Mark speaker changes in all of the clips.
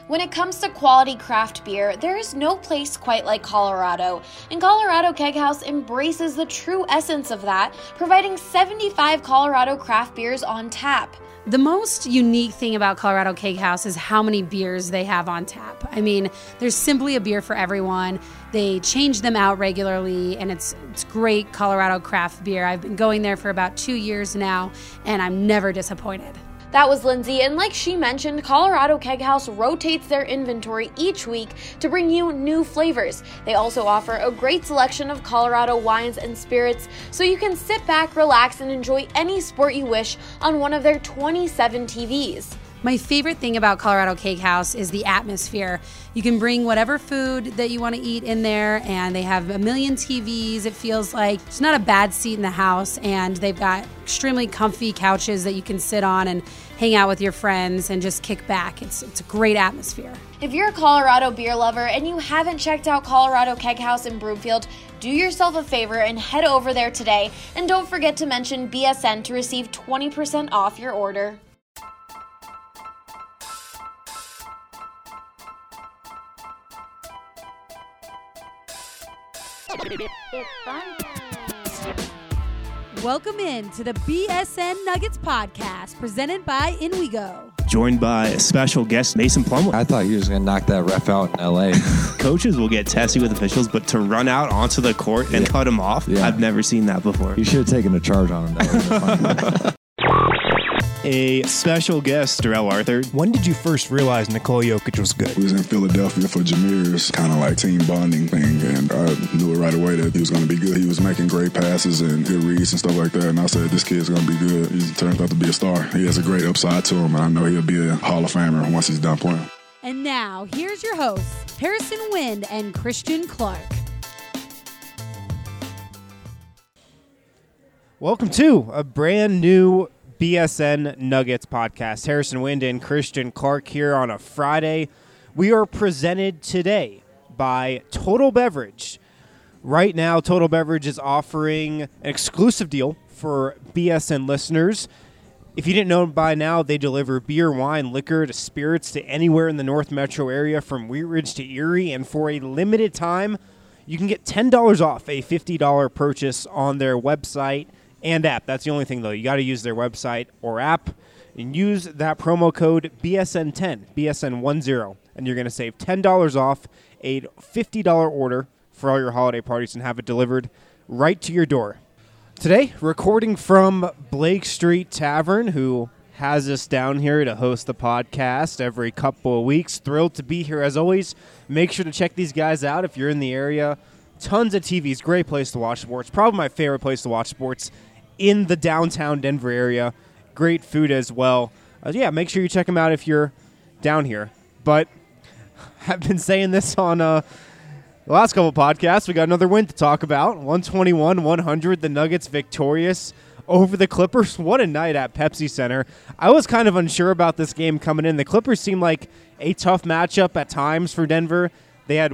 Speaker 1: When it comes to quality craft beer, there is no place quite like Colorado, and Colorado Keg House embraces the true essence of that, providing 75 Colorado craft beers on tap.
Speaker 2: The most unique thing about Colorado Keg House is how many beers they have on tap. I mean, there's simply a beer for everyone. They change them out regularly, and it's great Colorado craft beer. I've been going there for about 2 years now, and I'm never disappointed.
Speaker 1: That was Lindsay, and like she mentioned, Colorado Keg House rotates their inventory each week to bring you new flavors. They also offer a great selection of Colorado wines and spirits, so you can sit back, relax, and enjoy any sport you wish on one of their 27 TVs.
Speaker 2: My favorite thing about Colorado Keg House is the atmosphere. You can bring whatever food that you want to eat in there, and they have a million TVs. It feels like it's not a bad seat in the house, and they've got extremely comfy couches that you can sit on and hang out with your friends and just kick back. It's a great atmosphere.
Speaker 1: If you're a Colorado beer lover and you haven't checked out Colorado Keg House in Broomfield, do yourself a favor and head over there today. And don't forget to mention BSN to receive 20% off your order.
Speaker 3: It's fun time.
Speaker 2: Welcome in to the BSN Nuggets podcast presented by In We Go.
Speaker 4: Joined by special guest Mason Plumlee.
Speaker 5: I thought he was going to knock that ref out in L.A.
Speaker 4: Coaches will get testy with officials, but to run out onto the court and cut him off, I've never seen that before.
Speaker 5: You should have taken a charge on him. That would have been fun.
Speaker 4: A special guest, Darrell Arthur.
Speaker 6: When did you first realize Nikola Jokic was good?
Speaker 7: We was in Philadelphia for Jameer's kind of like team bonding thing, and I knew it right away that he was going to be good. He was making great passes and good reads and stuff like that, and I said, this kid's going to be good. He turned out to be a star. He has a great upside to him, and I know he'll be a Hall of Famer once he's done playing.
Speaker 2: And now, here's your hosts, Harrison Wind and Christian Clark.
Speaker 6: Welcome to a brand new BSN Nuggets podcast. Harrison Wind and Christian Clark here on a Friday. We are presented today by Total Beverage. Right now, Total Beverage is offering an exclusive deal for BSN listeners. If you didn't know by now, they deliver beer, wine, liquor, to spirits to anywhere in the North Metro area from Wheat Ridge to Erie. And for a limited time, you can get $10 off a $50 purchase on their website and app. That's the only thing, though. You got to use their website or app and use that promo code BSN10, BSN10, and you're going to save $10 off a $50 order for all your holiday parties and have it delivered right to your door. Today, recording from Blake Street Tavern, who has us down here to host the podcast every couple of weeks. Thrilled to be here as always. Make sure to check these guys out if you're in the area. Tons of TVs, great place to watch sports. Probably my favorite place to watch sports in the downtown Denver area. Great food as well. Make sure you check them out if you're down here. But I've been saying this on the last couple podcasts. We got another win to talk about. 121-100, the Nuggets victorious over the Clippers. What a night at Pepsi Center. I was kind of unsure about this game coming in. The Clippers seemed like a tough matchup at times for Denver. They had,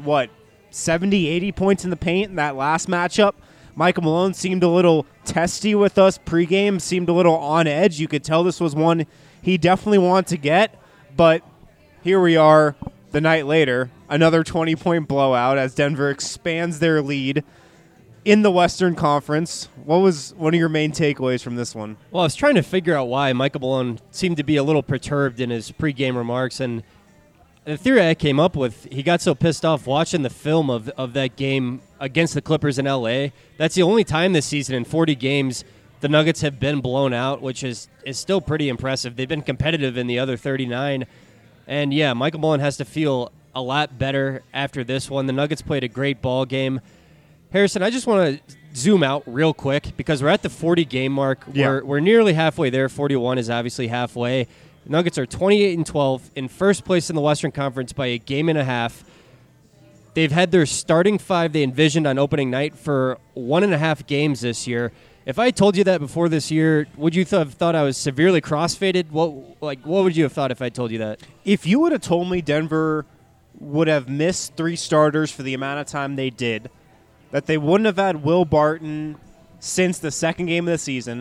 Speaker 6: 70, 80 points in the paint in that last matchup. Michael Malone seemed a little testy with us pregame, seemed a little on edge. You could tell this was one he definitely wanted to get, but here we are the night later, another 20-point blowout as Denver expands their lead in the Western Conference. What was one of your main takeaways from this one?
Speaker 8: Well, I was trying to figure out why Michael Malone seemed to be a little perturbed in his pregame remarks, and the theory I came up with, he got so pissed off watching the film of that game against the Clippers in L.A. That's the only time this season in 40 games the Nuggets have been blown out, which is still pretty impressive. They've been competitive in the other 39. And, Michael Malone has to feel a lot better after this one. The Nuggets played a great ball game. Harrison, I just want to zoom out real quick because we're at the 40-game mark.
Speaker 6: Yeah.
Speaker 8: We're nearly halfway there. 41 is obviously halfway. The Nuggets are 28-12 in first place in the Western Conference by a game and a half. They've had their starting five they envisioned on opening night for 1.5 games this year. If I told you that before this year, would you have thought I was severely crossfaded? What would you have thought if I told you that?
Speaker 6: If you would have told me Denver would have missed 3 starters for the amount of time they did, that they wouldn't have had Will Barton since the second game of the season,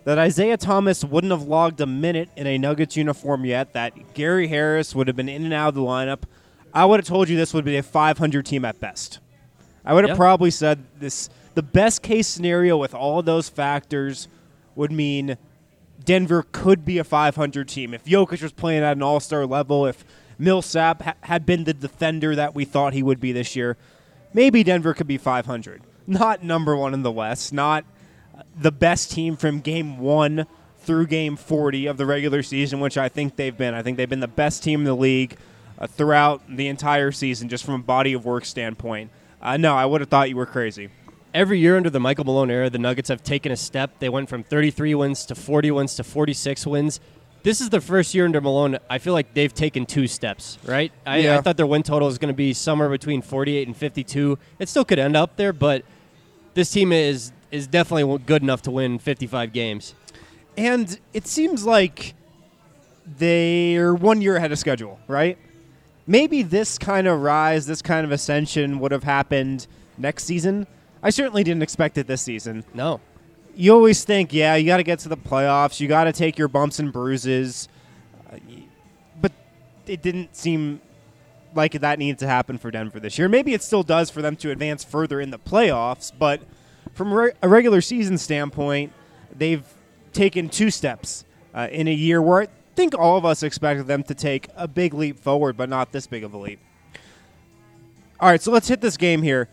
Speaker 6: that Isaiah Thomas wouldn't have logged a minute in a Nuggets uniform yet, that Gary Harris would have been in and out of the lineup, I would have told you this would be a 500 team at best. I would have probably said this. The best case scenario with all of those factors would mean Denver could be a 500 team. If Jokic was playing at an all-star level, if Millsap had been the defender that we thought he would be this year, maybe Denver could be 500. Not number one in the West, not the best team from game 1 through game 40 of the regular season, which I think they've been. I think they've been the best team in the league throughout the entire season, just from a body of work standpoint. No, I would have thought you were crazy.
Speaker 8: Every year under the Michael Malone era, the Nuggets have taken a step. They went from 33 wins to 40 wins to 46 wins. This is the first year under Malone. I feel like they've taken 2 steps, right? I thought their win total was going to be somewhere between 48 and 52. It still could end up there, but this team is definitely good enough to win 55 games.
Speaker 6: And it seems like they're 1 year ahead of schedule, right? Maybe this kind of rise, this kind of ascension would have happened next season. I certainly didn't expect it this season.
Speaker 8: No.
Speaker 6: You always think, you got to get to the playoffs. You got to take your bumps and bruises. But it didn't seem like that needed to happen for Denver this year. Maybe it still does for them to advance further in the playoffs, but from a regular season standpoint, they've taken 2 steps in a year where I think all of us expected them to take a big leap forward, but not this big of a leap. All right, so let's hit this game here.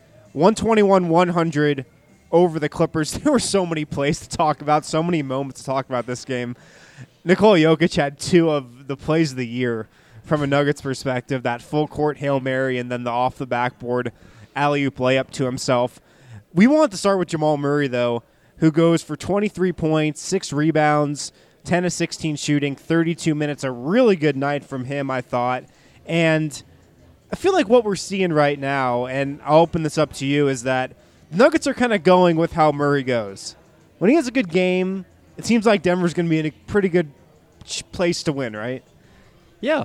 Speaker 6: 121-100 over the Clippers. There were so many plays to talk about, so many moments to talk about this game. Nikola Jokic had 2 of the plays of the year from a Nuggets perspective, that full-court Hail Mary and then the off-the-backboard alley-oop layup to himself. We want to start with Jamal Murray, though, who goes for 23 points, 6 rebounds, 10 of 16 shooting, 32 minutes. A really good night from him, I thought. And I feel like what we're seeing right now, and I'll open this up to you, is that the Nuggets are kind of going with how Murray goes. When he has a good game, it seems like Denver's going to be in a pretty good place to win, right?
Speaker 8: Yeah.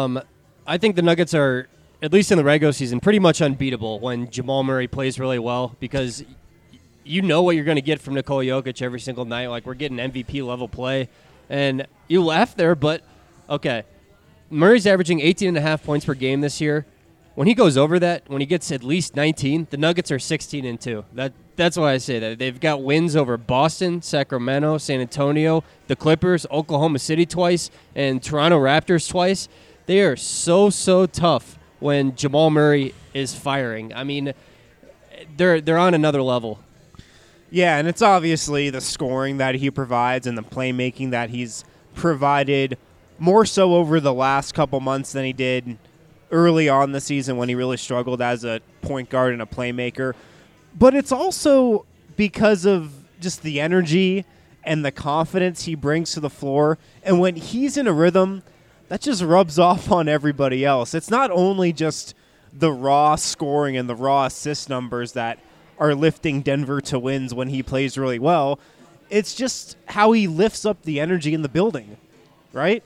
Speaker 8: I think the Nuggets are, at least in the regular season, pretty much unbeatable when Jamal Murray plays really well, because you know what you're going to get from Nikola Jokic every single night. Like, we're getting MVP-level play. And you laugh there, but, okay. Murray's averaging 18.5 points per game this year. When he goes over that, when he gets at least 19, the Nuggets are 16-2. That's why I say that. They've got wins over Boston, Sacramento, San Antonio, the Clippers, Oklahoma City twice, and Toronto Raptors twice. They are so tough when Jamal Murray is firing. I mean, they're on another level.
Speaker 6: Yeah, and it's obviously the scoring that he provides and the playmaking that he's provided more so over the last couple months than he did early on the season when he really struggled as a point guard and a playmaker. But it's also because of just the energy and the confidence he brings to the floor. And when he's in a rhythm, that just rubs off on everybody else. It's not only just the raw scoring and the raw assist numbers that are lifting Denver to wins when he plays really well. It's just how he lifts up the energy in the building, right?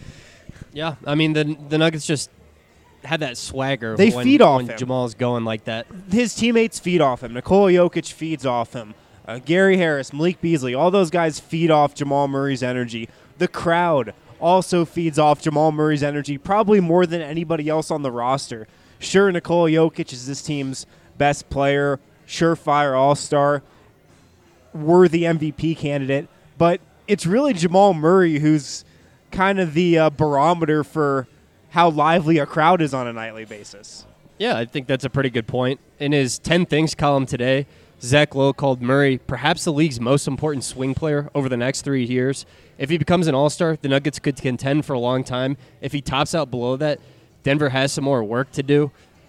Speaker 8: Yeah, I mean, the Nuggets just had that swagger.
Speaker 6: They feed off him.
Speaker 8: When Jamal's going like that.
Speaker 6: His teammates feed off him. Nikola Jokic feeds off him. Gary Harris, Malik Beasley, all those guys feed off Jamal Murray's energy. The crowd also feeds off Jamal Murray's energy, probably more than anybody else on the roster. Sure, Nikola Jokic is this team's best player, surefire all-star, worthy MVP candidate, but it's really Jamal Murray who's kind of the barometer for how lively a crowd is on a nightly basis.
Speaker 8: Yeah, I think that's a pretty good point. In his 10 Things column today, Zach Lowe called Murray perhaps the league's most important swing player over the next 3 years. If he becomes an all-star, the Nuggets could contend for a long time. If he tops out below that, Denver has some more work to do.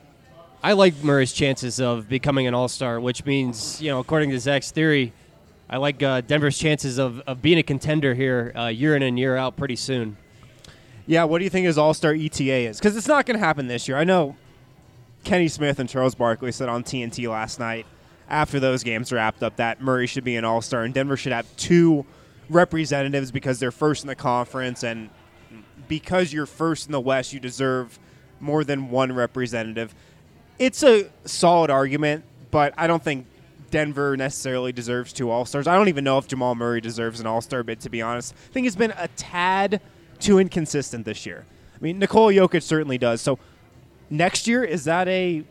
Speaker 8: I like Murray's chances of becoming an all-star, which means, according to Zach's theory, I like Denver's chances of being a contender here year in and year out pretty soon.
Speaker 6: Yeah, what do you think his all-star ETA is? Because it's not going to happen this year. I know Kenny Smith and Charles Barkley said on TNT last night after those games wrapped up that Murray should be an all-star and Denver should have 2 representatives because they're first in the conference, and because you're first in the West, you deserve more than 1 representative. It's a solid argument, but I don't think Denver necessarily deserves 2 All-Stars. I don't even know if Jamal Murray deserves an All-Star bid, to be honest. I think he's been a tad too inconsistent this year. I mean, Nikola Jokic certainly does. So next year, is that an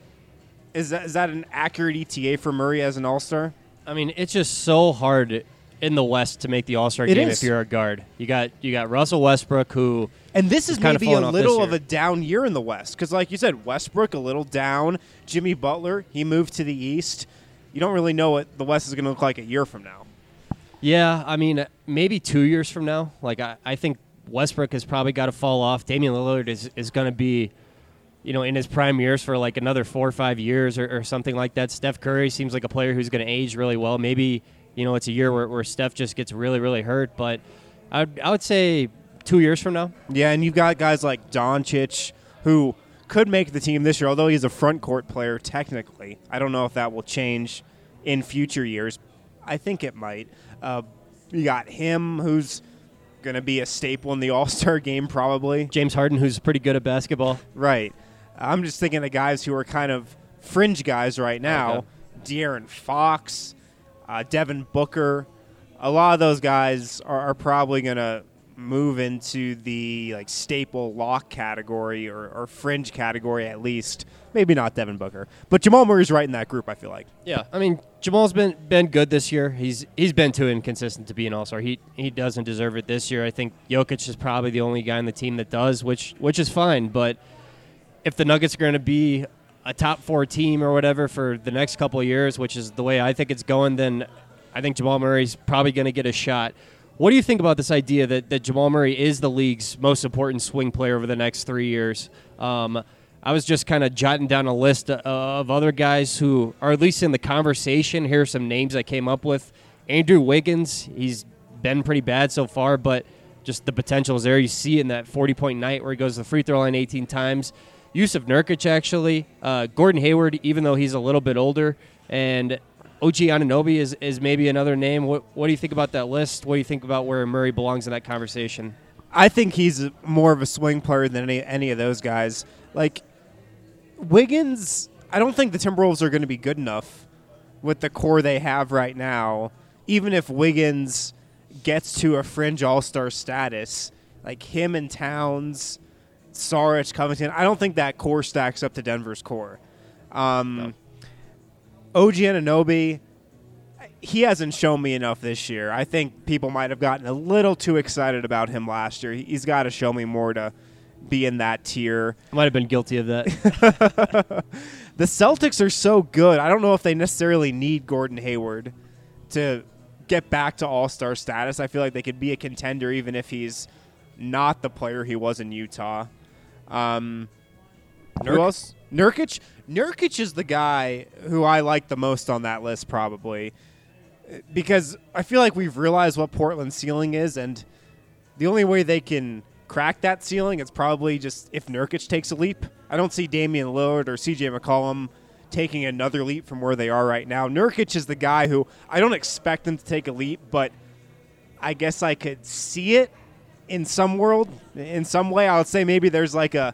Speaker 6: accurate ETA for Murray as an All-Star?
Speaker 8: I mean, it's just so hard in the West to make the All-Star game if you're a guard. You got Russell Westbrook, who
Speaker 6: and this is maybe a little of
Speaker 8: a
Speaker 6: down year in the West because, like you said, Westbrook a little down. Jimmy Butler, he moved to the East. You don't really know what the West is going to look like a year from now.
Speaker 8: Yeah, I mean, maybe 2 years from now. Like I think Westbrook has probably got to fall off. Damian Lillard is going to be, in his prime years for like another 4 or 5 years or something like that. Steph Curry seems like a player who's going to age really well. Maybe, it's a year where Steph just gets really, really hurt. But I would say 2 years from now.
Speaker 6: Yeah, and you've got guys like Doncic who could make the team this year, although he's a front court player technically. I don't know if that will change in future years. I think it might. You got him who's going to be a staple in the All-Star game probably.
Speaker 8: James Harden, who's pretty good at basketball.
Speaker 6: Right. I'm just thinking of guys who are kind of fringe guys right now.
Speaker 8: Okay.
Speaker 6: De'Aaron Fox, Devin Booker. A lot of those guys are probably going to move into the like staple lock category or fringe category at least. Maybe not Devin Booker. But Jamal Murray's right in that group, I feel like.
Speaker 8: Yeah. I mean, Jamal's been good this year. He's been too inconsistent to be an All-Star. He doesn't deserve it this year. I think Jokic is probably the only guy on the team that does, which is fine. But if the Nuggets are going to be a top 4 team or whatever for the next couple of years, which is the way I think it's going, then I think Jamal Murray's probably going to get a shot. What do you think about this idea that Jamal Murray is the league's most important swing player over the next 3 years? I was just kind of jotting down a list of other guys who are at least in the conversation. Here are some names I came up with. Andrew Wiggins, he's been pretty bad so far, but just the potential is there. You see it in that 40-point night where he goes to the free throw line 18 times. Yusuf Nurkic, actually. Gordon Hayward, even though he's a little bit older. And OG Anunoby is maybe another name. What do you think about that list? What do you think about where Murray belongs in that conversation?
Speaker 6: I think he's more of a swing player than any of those guys. Like, Wiggins, I don't think the Timberwolves are going to be good enough with the core they have right now. Even if Wiggins gets to a fringe all-star status, like him and Towns, Saric, Covington, I don't think that core stacks up to Denver's core.
Speaker 8: No.
Speaker 6: OG Anunoby, he hasn't shown me enough this year. I think people might have gotten a little too excited about him last year. He's got to show me more to be in that tier.
Speaker 8: I might have been guilty of that.
Speaker 6: The Celtics are so good. I don't know if they necessarily need Gordon Hayward to get back to all-star status. I feel like they could be a contender even if he's not the player he was in Utah. Who else? Nurkic? Nurkic is the guy who I like the most on that list probably because I feel like we've realized what Portland's ceiling is, and the only way they can crack that ceiling is probably just if Nurkic takes a leap. I don't see Damian Lillard or CJ McCollum taking another leap from where they are right now. Nurkic is the guy who I don't expect them to take a leap, but I guess I could see it in some world. In some way, I would say maybe there's like a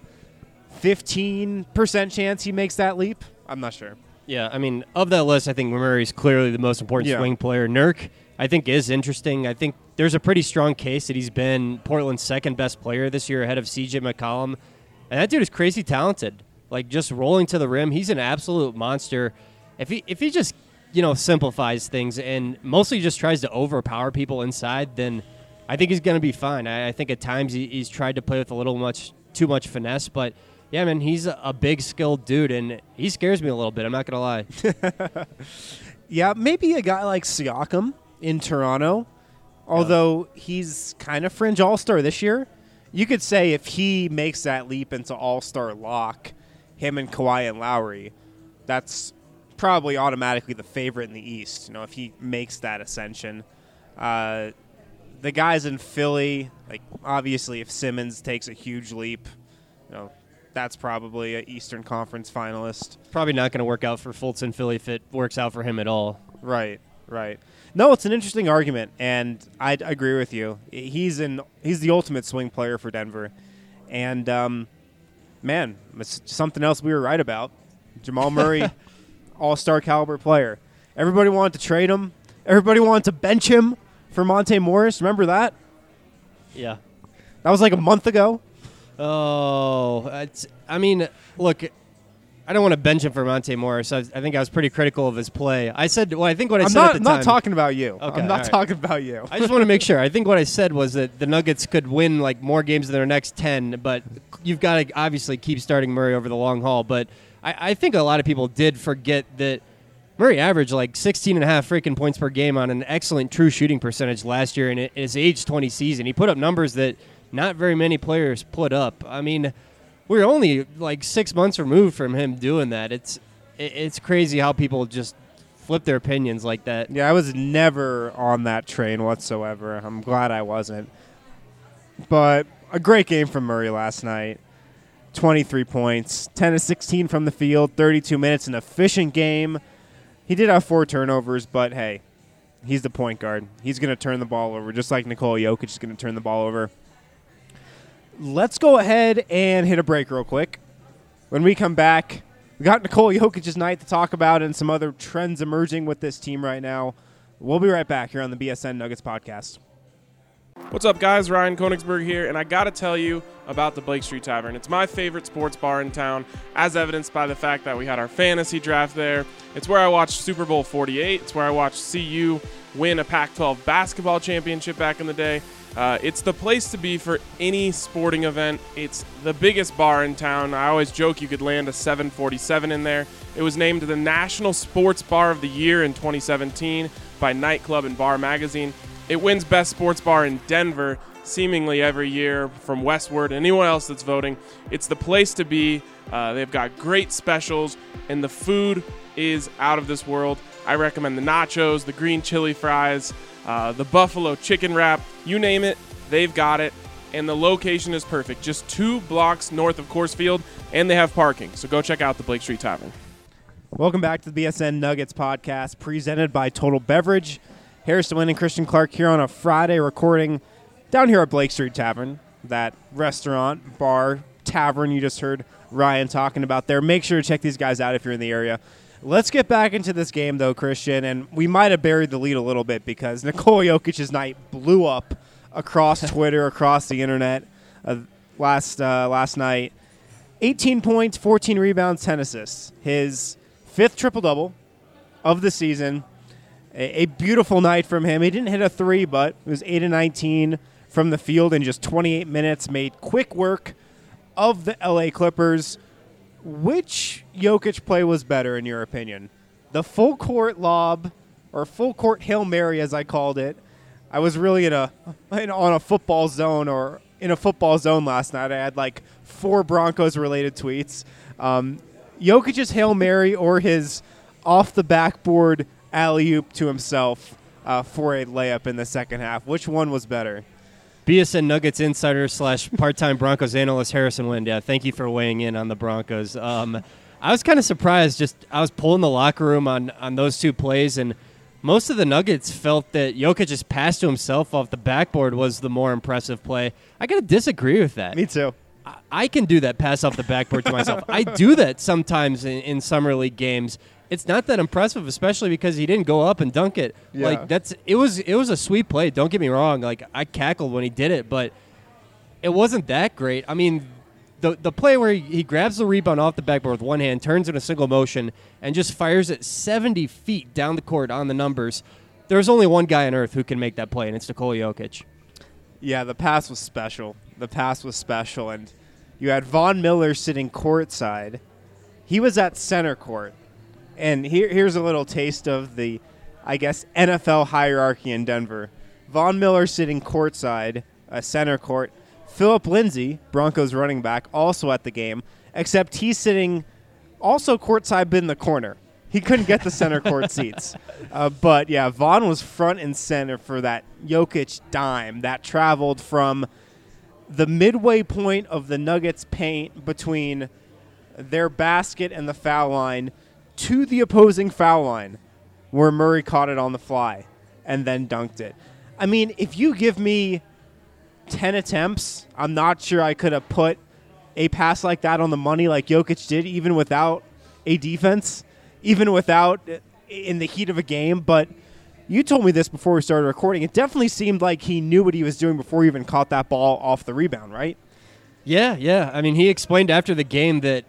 Speaker 6: 15% chance he makes that leap. I'm not sure.
Speaker 8: Yeah, I mean, of that list, I think Murray's clearly the most important swing player. Nurk, I think, is interesting. I think there's a pretty strong case that he's been Portland's second best player this year ahead of CJ McCollum. And that dude is crazy talented. Like, just rolling to the rim, he's an absolute monster. If he just, simplifies things and mostly just tries to overpower people inside, then I think he's going to be fine. I think at times he's tried to play with a little too much finesse, but yeah, man, he's a big, skilled dude, and he scares me a little bit. I'm not going to lie.
Speaker 6: Yeah, maybe a guy like Siakam in Toronto, although he's kind of fringe all-star this year. You could say if he makes that leap into all-star lock, him and Kawhi and Lowry, that's probably automatically the favorite in the East, if he makes that ascension. The guys in Philly, like obviously if Simmons takes a huge leap, that's probably an Eastern Conference finalist.
Speaker 8: Probably not going to work out for Fultz in Philly if it works out for him at all.
Speaker 6: Right. No, it's an interesting argument, and I agree with you. He's the ultimate swing player for Denver. And, man, it's something else we were right about. Jamal Murray, all-star caliber player. Everybody wanted to trade him. Everybody wanted to bench him for Monte Morris. Remember that?
Speaker 8: Yeah.
Speaker 6: That was like a month ago.
Speaker 8: Oh, look, I don't want to bench him for Monte Morris. I think I was pretty critical of his play. I said, well, I think what I said at the time.
Speaker 6: I'm not talking about you.
Speaker 8: Okay,
Speaker 6: I'm not talking about you.
Speaker 8: I just want to make sure. I think what I said was that the Nuggets could win like more games in their next 10, but you've got to obviously keep starting Murray over the long haul. But I think a lot of people did forget that Murray averaged like 16 and a half freaking points per game on an excellent true shooting percentage last year in his age 20 season. He put up numbers that not very many players put up. I mean, we're only like 6 months removed from him doing that. It's crazy how people just flip their opinions like that.
Speaker 6: Yeah, I was never on that train whatsoever. I'm glad I wasn't. But a great game from Murray last night. 23 points, 10 to 16 from the field, 32 minutes, an efficient game. He did have 4 turnovers, but hey, he's the point guard. He's going to turn the ball over, just like Nikola Jokic is going to turn the ball over. Let's go ahead and hit a break real quick. When we come back, we got Nikola Jokic's night to talk about and some other trends emerging with this team right now. We'll be right back here on the BSN Nuggets podcast.
Speaker 9: What's up, guys? Ryan Koenigsberg here, and I got to tell you about the Blake Street Tavern. It's my favorite sports bar in town, as evidenced by the fact that we had our fantasy draft there. It's where I watched Super Bowl 48. It's where I watched CU win a Pac-12 basketball championship back in the day. It's the place to be for any sporting event. It's the biggest bar in town. I always joke you could land a 747 in there. It was named the National Sports Bar of the Year in 2017 by Nightclub and Bar Magazine. It wins Best Sports Bar in Denver seemingly every year from Westward. Anyone else that's voting, it's the place to be. They've got great specials, and the food is out of this world. I recommend the nachos, the green chili fries, the buffalo chicken wrap. You name it, they've got it. And the location is perfect. Just 2 blocks north of Coors Field, and they have parking. So go check out the Blake Street Tavern.
Speaker 6: Welcome back to the BSN Nuggets podcast presented by Total Beverage. Harrison Wind and Christian Clark here on a Friday recording down here at Blake Street Tavern, that restaurant, bar, tavern you just heard Ryan talking about there. Make sure to check these guys out if you're in the area. Let's get back into this game, though, Christian, and we might have buried the lead a little bit because Nikola Jokic's night blew up across Twitter, across the internet last night. 18 points, 14 rebounds, 10 assists. His 5th triple-double of the season. A beautiful night from him. He didn't hit a 3, but it was 8 of 19 from the field in just 28 minutes. Made quick work of the LA Clippers. Which Jokic play was better, in your opinion? The full court lob, or full court Hail Mary, as I called it. I was really on a football zone, or in a football zone last night. I had like 4 Broncos-related tweets. Jokic's Hail Mary or his off the backboard alley-oop to himself for a layup in the second half. Which one was better?
Speaker 8: BSN Nuggets insider / part-time Broncos analyst Harrison Wind. Yeah, thank you for weighing in on the Broncos. I was kind of surprised. I was pulling the locker room on those 2 plays, and most of the Nuggets felt that Jokic's pass to himself off the backboard was the more impressive play. I got to disagree with that.
Speaker 6: Me too.
Speaker 8: I can do that pass off the backboard to myself. I do that sometimes in summer league games. It's not that impressive, especially because he didn't go up and dunk it.
Speaker 6: Yeah.
Speaker 8: Like it was a sweet play. Don't get me wrong. Like I cackled when he did it, but it wasn't that great. I mean, the play where he grabs the rebound off the backboard with one hand, turns in a single motion, and just fires it 70 feet down the court on the numbers. There's only one guy on earth who can make that play, and it's Nikola Jokic.
Speaker 6: Yeah, the pass was special. And you had Von Miller sitting courtside. He was at center court. And here's a little taste of the, I guess, NFL hierarchy in Denver. Von Miller sitting courtside, center court. Philip Lindsay, Broncos running back, also at the game, except he's sitting also courtside but in the corner. He couldn't get the center court seats. But, yeah, Von was front and center for that Jokic dime that traveled from the midway point of the Nuggets' paint between their basket and the foul line to the opposing foul line where Murray caught it on the fly and then dunked it. I mean, if you give me 10 attempts, I'm not sure I could have put a pass like that on the money like Jokic did, even without a defense, even without in the heat of a game, but you told me this before we started recording. It definitely seemed like he knew what he was doing before he even caught that ball off the rebound, right?
Speaker 8: Yeah. I mean, he explained after the game that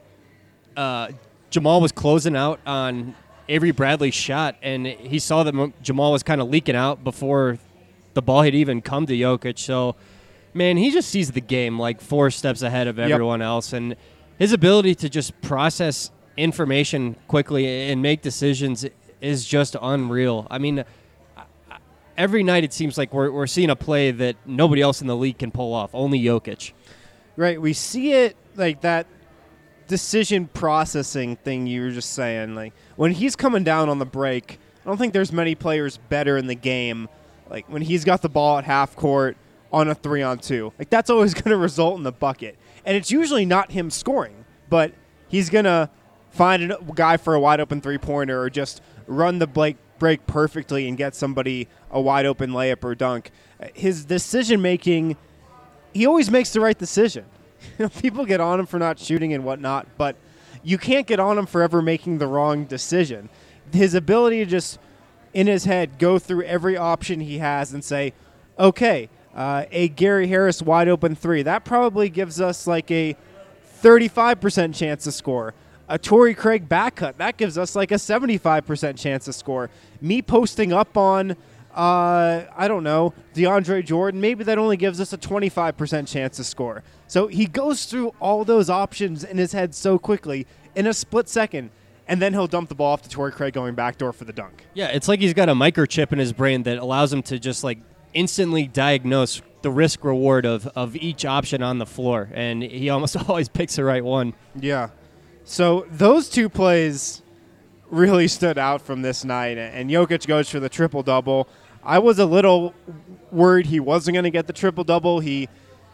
Speaker 8: Jamal was closing out on Avery Bradley's shot, and he saw that Jamal was kind of leaking out before the ball had even come to Jokic. So, man, he just sees the game like 4 steps ahead of everyone else, and his ability to just process information quickly and make decisions is just unreal. I mean, every night it seems like we're seeing a play that nobody else in the league can pull off, only Jokic.
Speaker 6: Right, we see it like that decision processing thing you were just saying. Like when he's coming down on the break, I don't think there's many players better in the game. Like when he's got the ball at half court on a 3-on-2, like that's always going to result in the bucket. And it's usually not him scoring, but he's going to find a guy for a wide open 3-pointer or just run the break perfectly and get somebody a wide open layup or dunk. His decision making, he always makes the right decision. People get on him for not shooting and whatnot, but you can't get on him for ever making the wrong decision. His ability to just, in his head, go through every option he has and say, okay, a Gary Harris wide open 3, that probably gives us like a 35% chance to score. A Torrey Craig back cut, that gives us like a 75% chance to score. Me posting up on, I don't know, DeAndre Jordan, maybe that only gives us a 25% chance to score. So he goes through all those options in his head so quickly in a split second, and then he'll dump the ball off to Torrey Craig going backdoor for the dunk.
Speaker 8: Yeah, it's like he's got a microchip in his brain that allows him to just like instantly diagnose the risk reward of each option on the floor, and he almost always picks the right one.
Speaker 6: Yeah. So those 2 plays really stood out from this night, and Jokic goes for the triple-double. I was a little worried he wasn't going to get the triple-double. He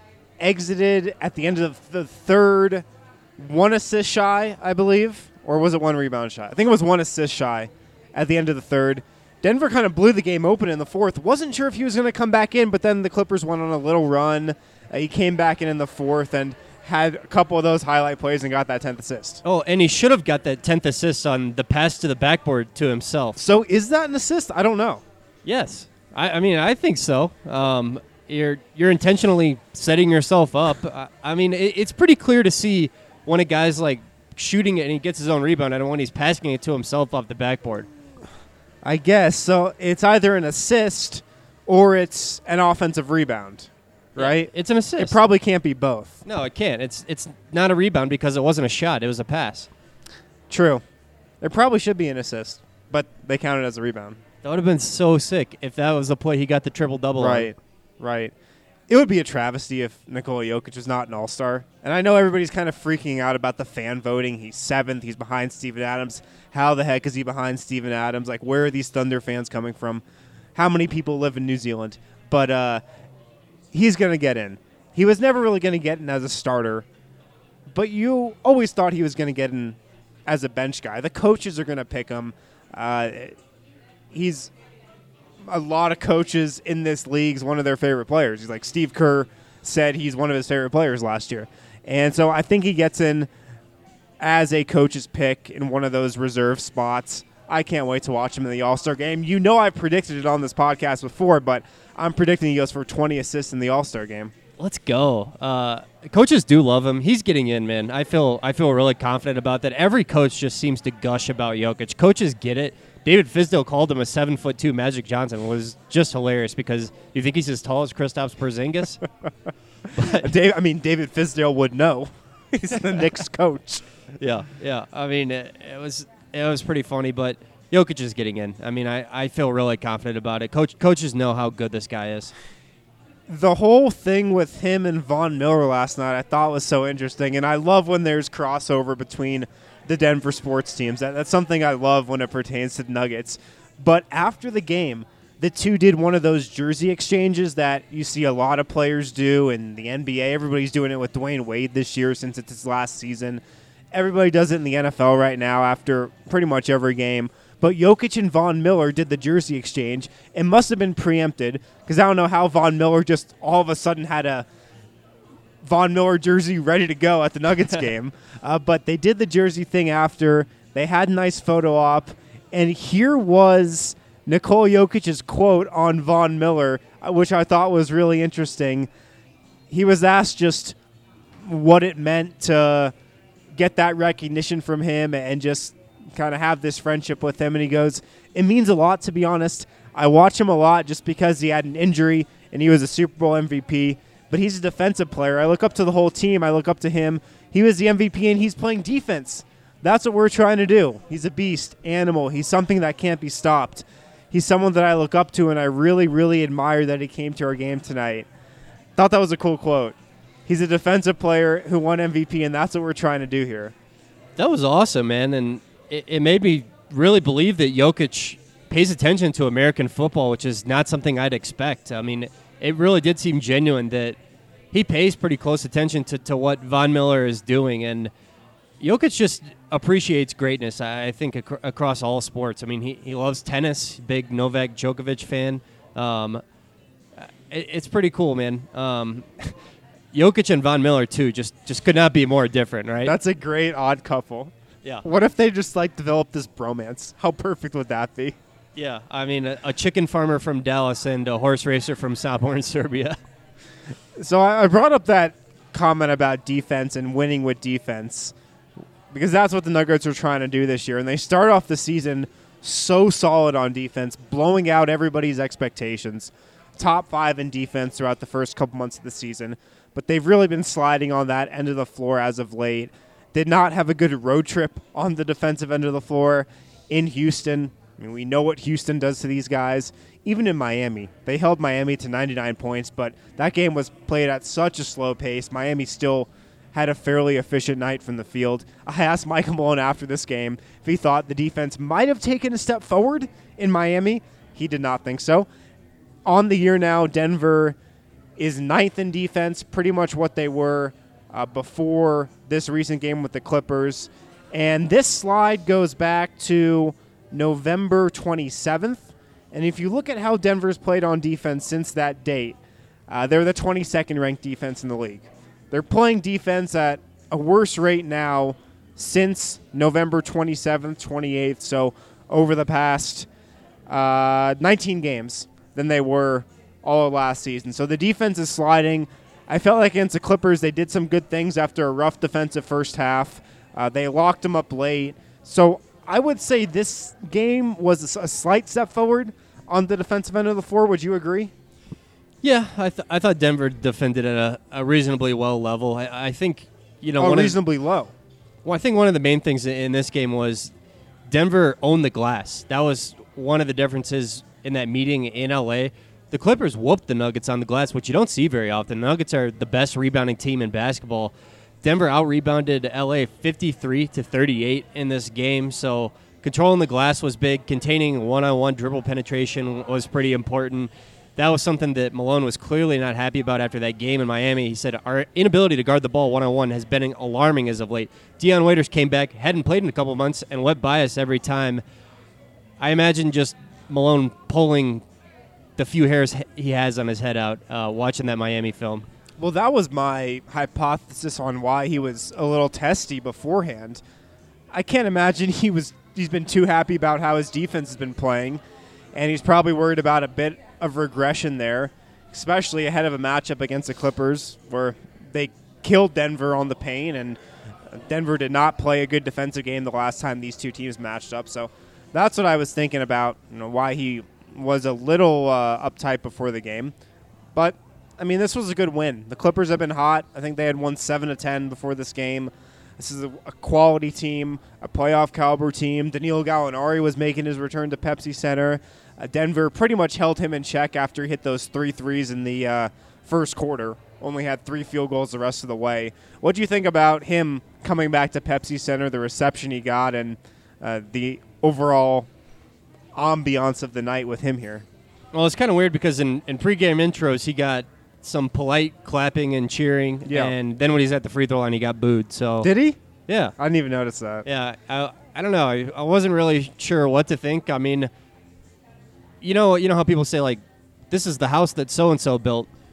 Speaker 6: exited at the end of the third 1 assist shy, I believe, or was it 1 rebound shy? I think it was 1 assist shy at the end of the third. Denver kind of blew the game open in the fourth. Wasn't sure if he was going to come back in, but then the Clippers went on a little run. He came back in the fourth and had a couple of those highlight plays and got that 10th assist.
Speaker 8: Oh, and he should have got that 10th assist on the pass to the backboard to himself.
Speaker 6: So is that an assist? I don't know.
Speaker 8: Yes. I mean, I think so. You're intentionally setting yourself up. I mean, it's pretty clear to see when a guy's like shooting it and he gets his own rebound and when he's passing it to himself off the backboard.
Speaker 6: I guess. So it's either an assist or it's an offensive rebound, right?
Speaker 8: Yeah, it's an assist.
Speaker 6: It probably can't be both.
Speaker 8: No, it can't. It's not a rebound because it wasn't a shot. It was a pass.
Speaker 6: True. There probably should be an assist, but they count it as a rebound.
Speaker 8: That would have been so sick if that was the play he got the triple-double on.
Speaker 6: Right. It would be a travesty if Nikola Jokic was not an all-star. And I know everybody's kind of freaking out about the fan voting. He's 7th. He's behind Steven Adams. How the heck is he behind Steven Adams? Like, where are these Thunder fans coming from? How many people live in New Zealand? But he's going to get in. He was never really going to get in as a starter, but you always thought he was going to get in as a bench guy. The coaches are going to pick him. He's a lot of coaches in this league's one of their favorite players. He's like Steve Kerr said he's one of his favorite players last year. And so I think he gets in as a coach's pick in one of those reserve spots. I can't wait to watch him in the All-Star game. You know I predicted it on this podcast before, but I'm predicting he goes for 20 assists in the All-Star game.
Speaker 8: Let's go. Coaches do love him. He's getting in, man. I feel really confident about that. Every coach just seems to gush about Jokic. Coaches get it. David Fizdale called him a 7'2" Magic Johnson. It was just hilarious because you think he's as tall as Kristaps Porzingis?
Speaker 6: David Fizdale would know. He's the Knicks coach.
Speaker 8: Yeah. I mean, it was pretty funny, but Jokic is getting in. I mean, I feel really confident about it. Coaches know how good this guy is.
Speaker 6: The whole thing with him and Von Miller last night I thought was so interesting, and I love when there's crossover between the Denver sports teams. That's something I love when it pertains to the Nuggets. But after the game, the two did one of those jersey exchanges that you see a lot of players do in the NBA. Everybody's doing it with Dwayne Wade this year since it's his last season. Everybody does it in the NFL right now after pretty much every game. But Jokic and Von Miller did the jersey exchange. It must have been preempted because I don't know how Von Miller just all of a sudden had a Von Miller jersey ready to go at the Nuggets game. But they did the jersey thing after. They had a nice photo op. And here was Nikola Jokic's quote on Von Miller, which I thought was really interesting. He was asked just what it meant to get that recognition from him and just kind of have this friendship with him. And he goes, "It means a lot, to be honest. I watch him a lot just because he had an injury and he was a Super Bowl MVP. But he's a defensive player. I look up to the whole team. I look up to him. He was the MVP and he's playing defense. That's what we're trying to do. He's a beast, animal. He's something that can't be stopped. He's someone that I look up to, and I really, really admire that he came to our game tonight." Thought that was a cool quote. He's a defensive player who won MVP, and that's what we're trying to do here.
Speaker 8: That was awesome, man, and it made me really believe that Jokic pays attention to American football, which is not something I'd expect. I mean, it really did seem genuine that he pays pretty close attention to what Von Miller is doing, and Jokic just appreciates greatness, I think, across all sports. I mean, he loves tennis, big Novak Djokovic fan. It's pretty cool, man. Jokic and Von Miller, too, just could not be more different, right?
Speaker 6: That's a great odd couple.
Speaker 8: Yeah.
Speaker 6: What if they just, developed this bromance? How perfect would that be?
Speaker 8: Yeah, I mean, a chicken farmer from Dallas and a horse racer from Soborn, Serbia.
Speaker 6: So I brought up that comment about defense and winning with defense because that's what the Nuggets are trying to do this year. And they start off the season so solid on defense, blowing out everybody's expectations. Top 5 in defense throughout the first couple months of the season. But they've really been sliding on that end of the floor as of late. Did not have a good road trip on the defensive end of the floor in Houston. I mean, we know what Houston does to these guys. Even in Miami, they held Miami to 99 points, but that game was played at such a slow pace. Miami still had a fairly efficient night from the field. I asked Michael Malone after this game if he thought the defense might have taken a step forward in Miami. He did not think so. On the year now, Denver is 9th in defense, pretty much what they were before this recent game with the Clippers. And this slide goes back to November 27th. And if you look at how Denver's played on defense since that date, they're the 22nd ranked defense in the league. They're playing defense at a worse rate now since November 27th, 28th, so over the past 19 games than they were all of last season. So the defense is sliding. I felt like against the Clippers they did some good things after a rough defensive first half. They locked them up late. So I would say this game was a slight step forward on the defensive end of the floor. Would you agree?
Speaker 8: Yeah, I thought Denver defended at a reasonably well level. I think,
Speaker 6: reasonably low.
Speaker 8: Well, I think one of the main things in this game was Denver owned the glass. That was one of the differences in that meeting in L.A. The Clippers whooped the Nuggets on the glass, which you don't see very often. The Nuggets are the best rebounding team in basketball. Denver out-rebounded L.A. 53-38 in this game, so controlling the glass was big. Containing one-on-one dribble penetration was pretty important. That was something that Malone was clearly not happy about after that game in Miami. He said, our inability to guard the ball one-on-one has been alarming as of late. Dion Waiters came back, hadn't played in a couple months, and went by us every time. I imagine just Malone pulling the few hairs he has on his head out watching that Miami film.
Speaker 6: Well, that was my hypothesis on why he was a little testy beforehand. I can't imagine he's been too happy about how his defense has been playing, and he's probably worried about a bit of regression there, especially ahead of a matchup against the Clippers where they killed Denver on the paint, and Denver did not play a good defensive game the last time these two teams matched up. So that's what I was thinking about, why he was a little uptight before the game. But I mean, this was a good win. The Clippers have been hot. I think they had won 7-10 before this game. This is a quality team, a playoff caliber team. Danilo Gallinari was making his return to Pepsi Center. Denver pretty much held him in check after he hit those 3 threes in the first quarter. Only had 3 field goals the rest of the way. What do you think about him coming back to Pepsi Center, the reception he got, and the overall ambiance of the night with him here?
Speaker 8: Well, it's kind of weird because in pregame intros, he got some polite clapping and cheering, and then when he's at the free throw line, he got booed. So
Speaker 6: did he?
Speaker 8: Yeah.
Speaker 6: I didn't even notice that.
Speaker 8: Yeah, I don't know. I wasn't really sure what to think. I mean, you know how people say, like, this is the house that so-and-so built.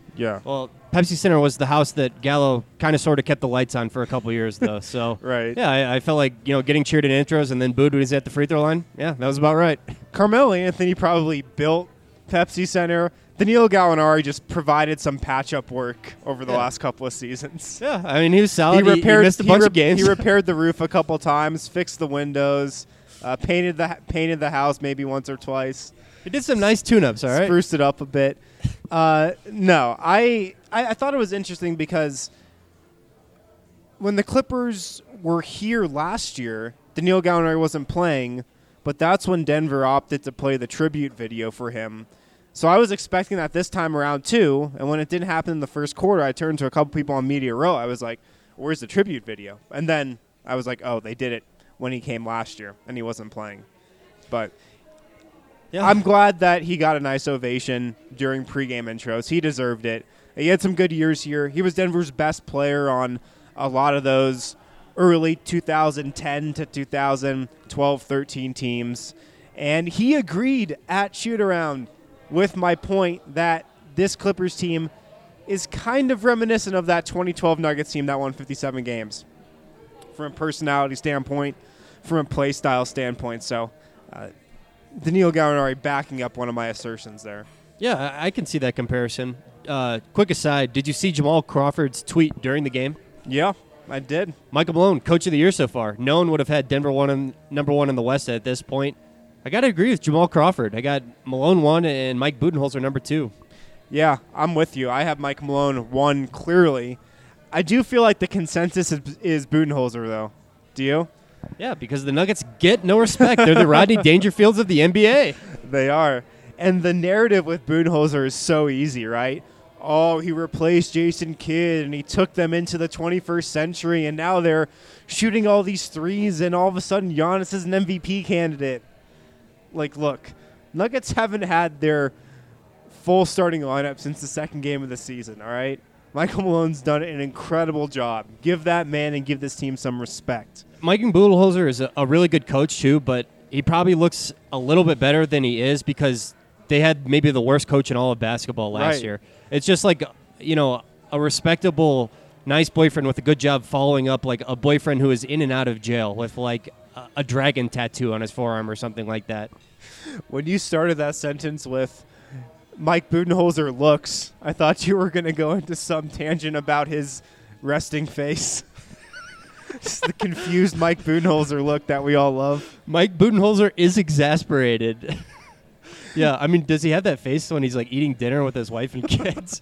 Speaker 6: Yeah.
Speaker 8: Well, Pepsi Center was the house that Gallo kind of sort of kept the lights on for a couple years, though. So
Speaker 6: Right.
Speaker 8: Yeah, I felt like getting cheered in intros and then booed when he's at the free throw line. Yeah, that was about right.
Speaker 6: Carmelo Anthony probably built Pepsi Center. Danilo Gallinari just provided some patch-up work over the last couple of seasons.
Speaker 8: Yeah, I mean he was solid. He missed a bunch of games.
Speaker 6: He repaired the roof a couple times, fixed the windows, painted the house maybe once or twice.
Speaker 8: He did some nice tune-ups. All right,
Speaker 6: spruced it up a bit. No, I thought it was interesting because when the Clippers were here last year, Danilo Gallinari wasn't playing, but that's when Denver opted to play the tribute video for him. So I was expecting that this time around too, and when it didn't happen in the first quarter, I turned to a couple people on Media Row. I was like, where's the tribute video? And then I was like, oh, they did it when he came last year, and he wasn't playing. But yeah. I'm glad that he got a nice ovation during pregame intros. He deserved it. He had some good years here. He was Denver's best player on a lot of those early 2010 to 2012-13 teams. And he agreed at shoot-around with my point that this Clippers team is kind of reminiscent of that 2012 Nuggets team that won 57 games from a personality standpoint, from a play style standpoint. So Danilo Gallinari backing up one of my assertions there.
Speaker 8: Yeah, I can see that comparison. Quick aside, did you see Jamal Crawford's tweet during the game?
Speaker 6: Yeah, I did.
Speaker 8: Michael Malone, Coach of the Year so far. No one would have had Denver number one in the West at this point. I got to agree with Jamal Crawford. I got Malone 1 and Mike Budenholzer number 2.
Speaker 6: Yeah, I'm with you. I have Mike Malone 1 clearly. I do feel like the consensus is Budenholzer, though. Do you?
Speaker 8: Yeah, because the Nuggets get no respect. They're the Rodney Dangerfields of the NBA.
Speaker 6: They are. And the narrative with Budenholzer is so easy, right? Oh, he replaced Jason Kidd, and he took them into the 21st century, and now they're shooting all these threes, and all of a sudden Giannis is an MVP candidate. Like, look, Nuggets haven't had their full starting lineup since the second game of the season, all right? Michael Malone's done an incredible job. Give that man and give this team some respect.
Speaker 8: Mike Budenholzer is a really good coach, too, but he probably looks a little bit better than he is because they had maybe the worst coach in all of basketball last year. It's just like, a respectable, nice boyfriend with a good job following up like a boyfriend who is in and out of jail with like a dragon tattoo on his forearm or something like that.
Speaker 6: When you started that sentence with Mike Budenholzer looks, I thought you were going to go into some tangent about his resting face. Just the confused Mike Budenholzer look that we all love.
Speaker 8: Mike Budenholzer is exasperated. Yeah, I mean, does he have that face when he's like eating dinner with his wife and kids?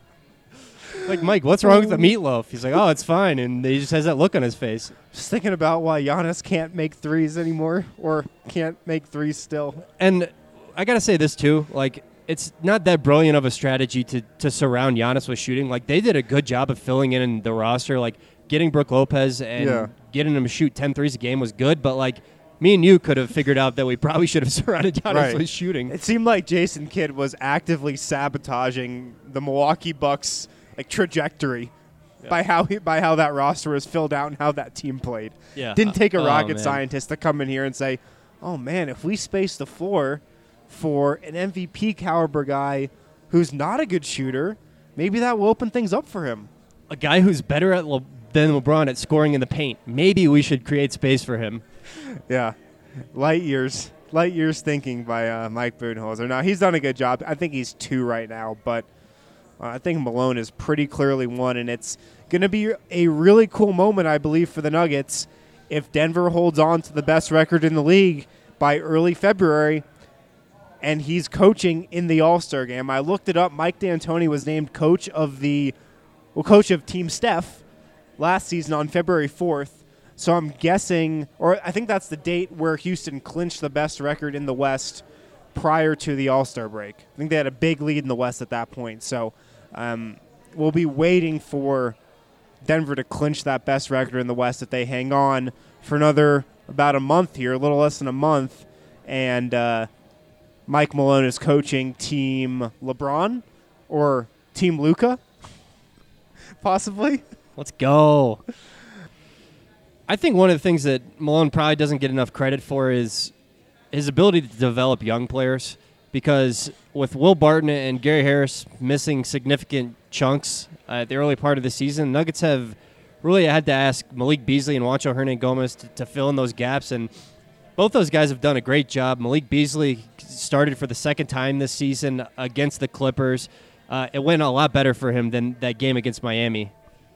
Speaker 8: Like, Mike, what's wrong with the meatloaf? He's like, oh, it's fine. And he just has that look on his face.
Speaker 6: Just thinking about why Giannis can't make threes anymore or can't make threes still.
Speaker 8: And I got to say this, too. Like, it's not that brilliant of a strategy to surround Giannis with shooting. Like, they did a good job of filling in the roster. Like, getting Brook Lopez and getting him to shoot 10 threes a game was good. But, like, me and you could have figured out that we probably should have surrounded Giannis with shooting.
Speaker 6: It seemed like Jason Kidd was actively sabotaging the Milwaukee Bucks trajectory by how that roster was filled out and how that team played.
Speaker 8: Yeah.
Speaker 6: Didn't take a rocket scientist to come in here and say, oh, man, if we space the floor for an MVP caliber guy who's not a good shooter, maybe that will open things up for him.
Speaker 8: A guy who's better than LeBron at scoring in the paint. Maybe we should create space for him.
Speaker 6: Yeah. Light years thinking by Mike Budenholzer. Now, he's done a good job. I think he's 2 right now, but I think Malone is pretty clearly 1, and it's going to be a really cool moment, I believe, for the Nuggets if Denver holds on to the best record in the league by early February and he's coaching in the All-Star game. I looked it up. Mike D'Antoni was named coach of Team Steph last season on February 4th. So I'm guessing, or I think that's the date where Houston clinched the best record in the West prior to the All-Star break. I think they had a big lead in the West at that point. So we'll be waiting for Denver to clinch that best record in the West if they hang on for about a month here, a little less than a month. And Mike Malone is coaching Team LeBron or Team Luka, possibly.
Speaker 8: Let's go. I think one of the things that Malone probably doesn't get enough credit for is his ability to develop young players. because with Will Barton and Gary Harris missing significant chunks at the early part of the season, Nuggets have really had to ask Malik Beasley and Juancho Hernangomez to fill in those gaps, and both those guys have done a great job. Malik Beasley started for the second time this season against the Clippers. It went a lot better for him than that game against Miami.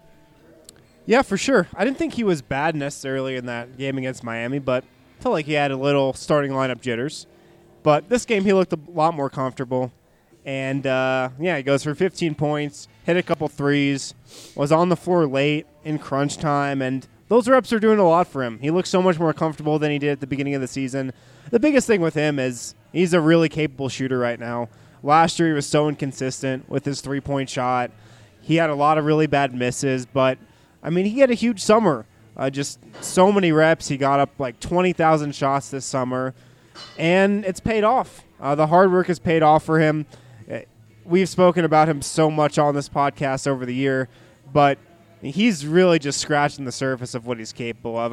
Speaker 6: Yeah, for sure. I didn't think he was bad necessarily in that game against Miami, but felt like he had a little starting lineup jitters. But this game, he looked a lot more comfortable. And, he goes for 15 points, hit a couple threes, was on the floor late in crunch time, and those reps are doing a lot for him. He looks so much more comfortable than he did at the beginning of the season. The biggest thing with him is he's a really capable shooter right now. Last year, he was so inconsistent with his three-point shot. He had a lot of really bad misses, but, he had a huge summer. Just so many reps. He got up like 20,000 shots this summer, and it's paid off. The hard work has paid off for him. We've spoken about him so much on this podcast over the year, but he's really just scratching the surface of what he's capable of.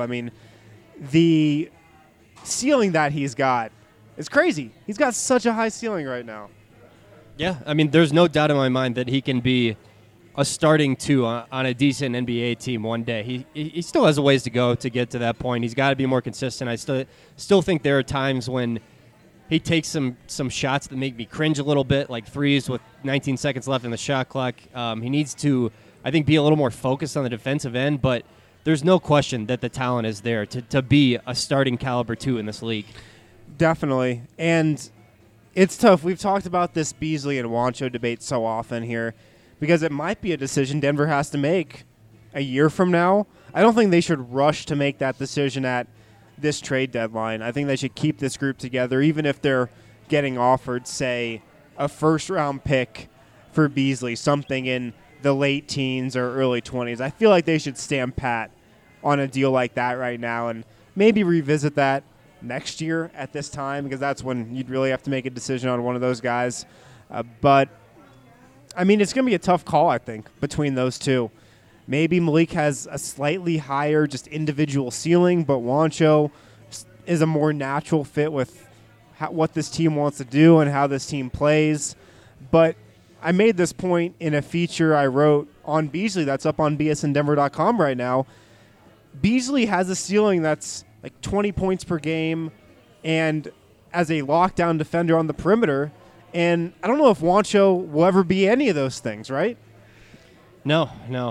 Speaker 6: The ceiling that he's got is crazy. He's got such a high ceiling right now.
Speaker 8: Yeah, there's no doubt in my mind that he can be a starting two on a decent NBA team one day. He still has a ways to go to get to that point. He's got to be more consistent. I still think there are times when he takes some shots that make me cringe a little bit, like threes with 19 seconds left in the shot clock. He needs to, I think, be a little more focused on the defensive end, but there's no question that the talent is there to be a starting caliber two in this league.
Speaker 6: Definitely. And it's tough. We've talked about this Beasley and Juancho debate so often here because it might be a decision Denver has to make a year from now. I don't think they should rush to make that decision at this trade deadline. I think they should keep this group together, even if they're getting offered, say, a first-round pick for Beasley, something in the late teens or early 20s. I feel like they should stand pat on a deal like that right now and maybe revisit that next year at this time because that's when you'd really have to make a decision on one of those guys. But, it's going to be a tough call, I think, between those two. Maybe Malik has a slightly higher just individual ceiling, but Juancho is a more natural fit with what this team wants to do and how this team plays. But I made this point in a feature I wrote on Beasley that's up on bsndenver.com right now. Beasley has a ceiling that's like 20 points per game and as a lockdown defender on the perimeter. And I don't know if Juancho will ever be any of those things, right?
Speaker 8: No.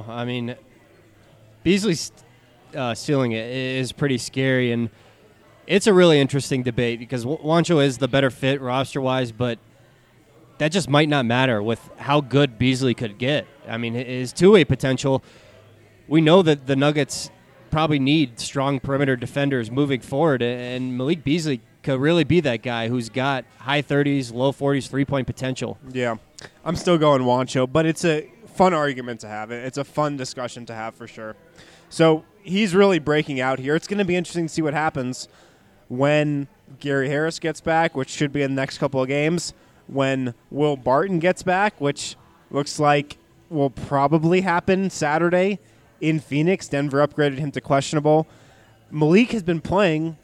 Speaker 8: Beasley's ceiling is pretty scary, and it's a really interesting debate because Juancho is the better fit roster-wise, but that just might not matter with how good Beasley could get. His two-way potential, we know that the Nuggets probably need strong perimeter defenders moving forward, and Malik Beasley could really be that guy who's got high 30s, low 40s three-point potential.
Speaker 6: Yeah, I'm still going Juancho, but it's a fun argument to have. It's a fun discussion to have for sure. So he's really breaking out here. It's going to be interesting to see what happens when Gary Harris gets back, which should be in the next couple of games, when Will Barton gets back, which looks like will probably happen Saturday in Phoenix. Denver upgraded him to questionable. Malik has been playing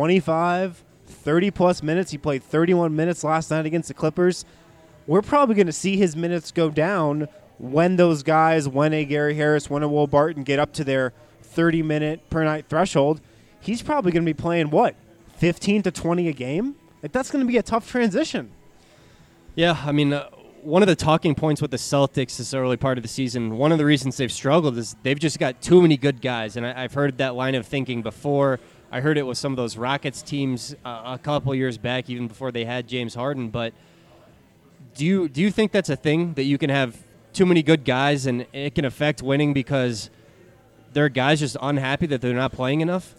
Speaker 6: 25, 30-plus minutes. He played 31 minutes last night against the Clippers. We're probably going to see his minutes go down when those guys, when a Gary Harris, when a Will Barton get up to their 30-minute per night threshold. He's probably going to be playing, 15 to 20 a game? That's going to be a tough transition.
Speaker 8: Yeah, one of the talking points with the Celtics this early part of the season, one of the reasons they've struggled is they've just got too many good guys. And I've heard that line of thinking before. I heard it with some of those Rockets teams a couple years back, even before they had James Harden. But do you think that's a thing, that you can have too many good guys and it can affect winning because there are guys just unhappy that they're not playing enough?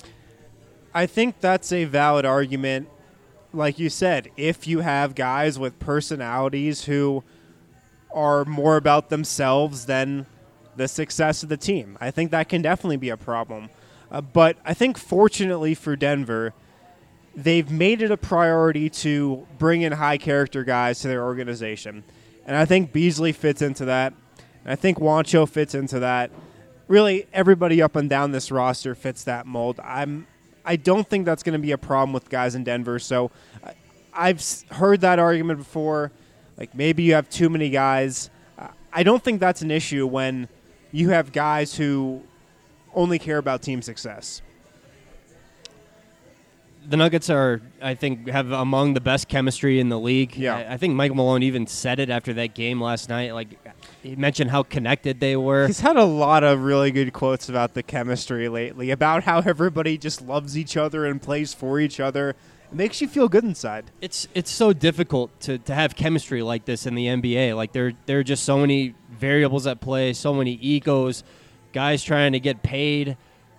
Speaker 6: I think that's a valid argument. Like you said, if you have guys with personalities who are more about themselves than the success of the team, I think that can definitely be a problem. But I think fortunately for Denver, they've made it a priority to bring in high-character guys to their organization. And I think Beasley fits into that. And I think Juancho fits into that. Really, everybody up and down this roster fits that mold. I don't think that's going to be a problem with guys in Denver. So I've heard that argument before. Like, maybe you have too many guys. I don't think that's an issue when you have guys who only care about team success.
Speaker 8: The Nuggets are, I think, have among the best chemistry in the league.
Speaker 6: Yeah.
Speaker 8: I think Michael Malone even said it after that game last night. Like, he mentioned how connected they were.
Speaker 6: He's had a lot of really good quotes about the chemistry lately, about how everybody just loves each other and plays for each other. It makes you feel good inside.
Speaker 8: It's so difficult to have chemistry like this in the NBA. Like, there are just so many variables at play, so many egos, guys trying to get paid.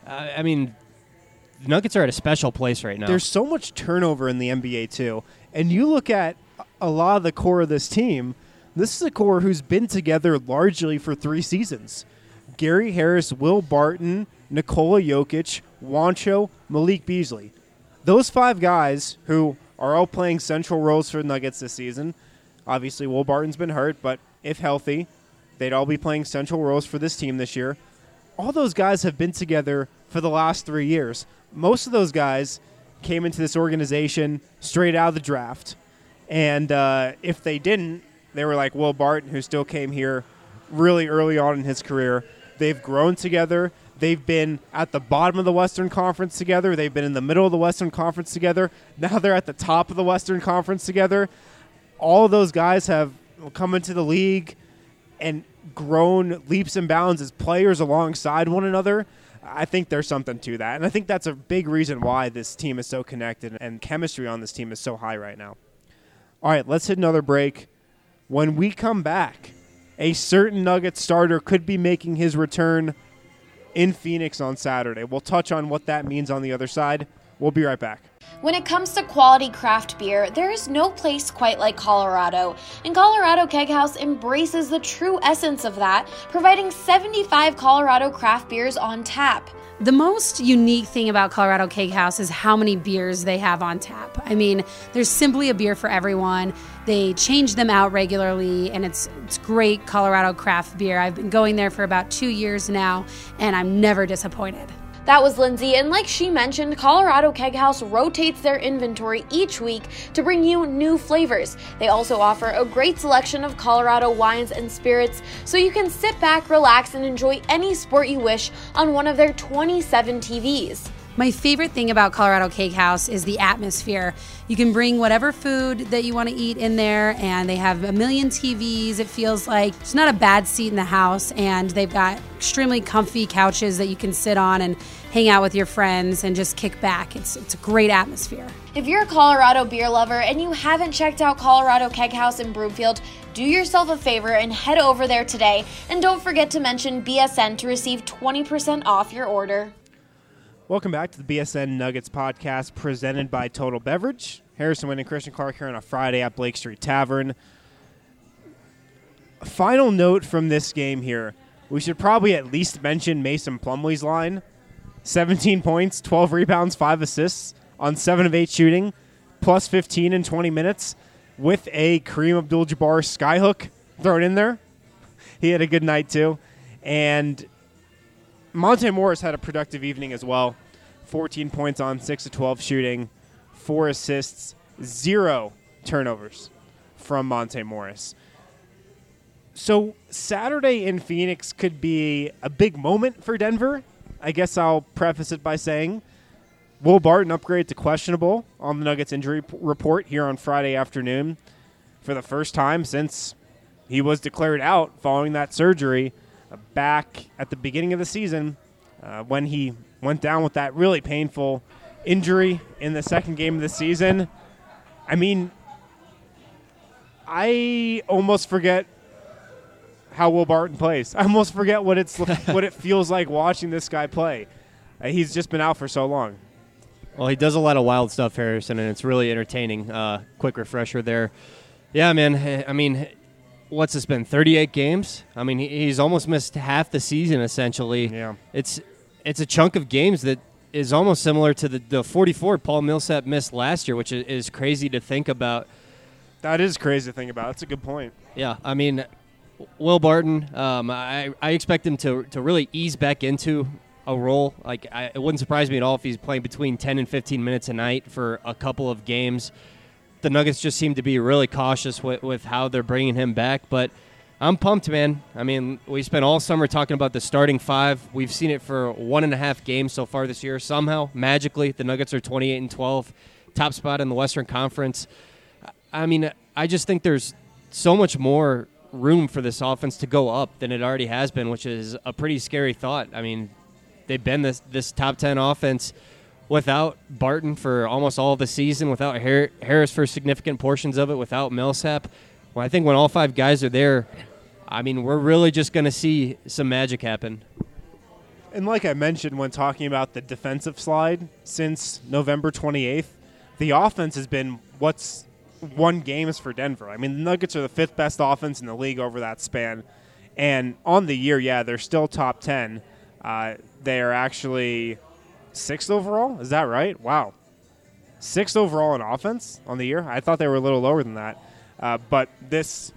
Speaker 8: I mean, the Nuggets are at a special place right now.
Speaker 6: There's so much turnover in the NBA, too. And you look at a lot of the core of this team, this is a core who's been together largely for 3 seasons. Gary Harris, Will Barton, Nikola Jokic, Juancho, Malik Beasley. Those 5 guys who are all playing central roles for the Nuggets this season. Obviously, Will Barton's been hurt, but if healthy, they'd all be playing central roles for this team this year. All those guys have been together for the last 3 years. Most of those guys came into this organization straight out of the draft. And if they didn't, they were like Will Barton, who still came here really early on in his career. They've grown together. They've been at the bottom of the Western Conference together. They've been in the middle of the Western Conference together. Now they're at the top of the Western Conference together. All of those guys have come into the league and grown leaps and bounds as players alongside one another. I think there's something to that. And I think that's a big reason why this team is so connected and chemistry on this team is so high right now. All right, let's hit another break. When we come back, a certain Nuggets starter could be making his return in Phoenix on Saturday. We'll touch on what that means on the other side. We'll be right back.
Speaker 1: When it comes to quality craft beer, there is no place quite like Colorado, and Colorado Keg House embraces the true essence of that, providing 75 Colorado craft beers on tap.
Speaker 2: The most unique thing about Colorado Keg House is how many beers they have on tap. I mean, there's simply a beer for everyone. They change them out regularly, and it's great Colorado craft beer. I've been going there for about 2 years now, and I'm never disappointed.
Speaker 1: That was Lindsay, and like she mentioned, Colorado Keg House rotates their inventory each week to bring you new flavors. They also offer a great selection of Colorado wines and spirits, so you can sit back, relax, and enjoy any sport you wish on one of their 27 TVs.
Speaker 2: My favorite thing about Colorado Keg House is the atmosphere. You can bring whatever food that you want to eat in there, and they have a million TVs. It feels like it's not a bad seat in the house, and they've got extremely comfy couches that you can sit on and hang out with your friends and just kick back. It's a great atmosphere.
Speaker 1: If you're a Colorado beer lover and you haven't checked out Colorado Keg House in Broomfield, do yourself a favor and head over there today. And don't forget to mention BSN to receive 20% off your order.
Speaker 6: Welcome back to the BSN Nuggets podcast presented by Total Beverage. Harrison Wind and Christian Clark here on a Friday at Blake Street Tavern. Final note from this game here. We should probably at least mention Mason Plumlee's line. 17 points, 12 rebounds, 5 assists on 7 of 8 shooting, plus 15 in 20 minutes with a Kareem Abdul-Jabbar skyhook thrown in there. He had a good night too. And Monte Morris had a productive evening as well. 14 points on 6 of 12 shooting, 4 assists, 0 turnovers from Monte Morris. So Saturday in Phoenix could be a big moment for Denver. I guess I'll preface it by saying Will Barton upgraded to questionable on the Nuggets injury report here on Friday afternoon for the first time since he was declared out following that surgery back at the beginning of the season when he went down with that really painful injury in the second game of the season. I mean, I almost forget how Will Barton plays. I almost forget what it feels like watching this guy play. He's just been out for so long.
Speaker 8: Well, he does a lot of wild stuff, Harrison, and it's really entertaining. Quick refresher there. Yeah, man. I mean, what's this been, 38 games? I mean, he's almost missed half the season, essentially.
Speaker 6: Yeah.
Speaker 8: It's a chunk of games that is almost similar to the 44 Paul Millsap missed last year, which is crazy to think about.
Speaker 6: That is crazy to think about. That's a good point.
Speaker 8: Yeah, I mean, Will Barton, I expect him to really ease back into a role. Like, it wouldn't surprise me at all if he's playing between 10 and 15 minutes a night for a couple of games. the Nuggets just seem to be really cautious with how they're bringing him back. But I'm pumped, man. I mean, we spent all summer talking about the starting five. We've seen it for 1.5 games so far this year. Somehow, magically, the Nuggets are 28-12, top spot in the Western Conference. I mean, I just think there's so much more room for this offense to go up than it already has been, which is a pretty scary thought. I mean, they've been this top 10 offense without Barton for almost all of the season, without Harris for significant portions of it, without Millsap. Well, I think when all 5 guys are there, I mean, we're really just going to see some magic happen.
Speaker 6: And like I mentioned when talking about the defensive slide, since November 28th, the offense has been what's won games for Denver. I mean, the Nuggets are the 5th best offense in the league over that span. And on the year, yeah, they're still top 10. They are actually 6th overall. Is that right? Wow. 6th overall in offense on the year? I thought they were a little lower than that. But this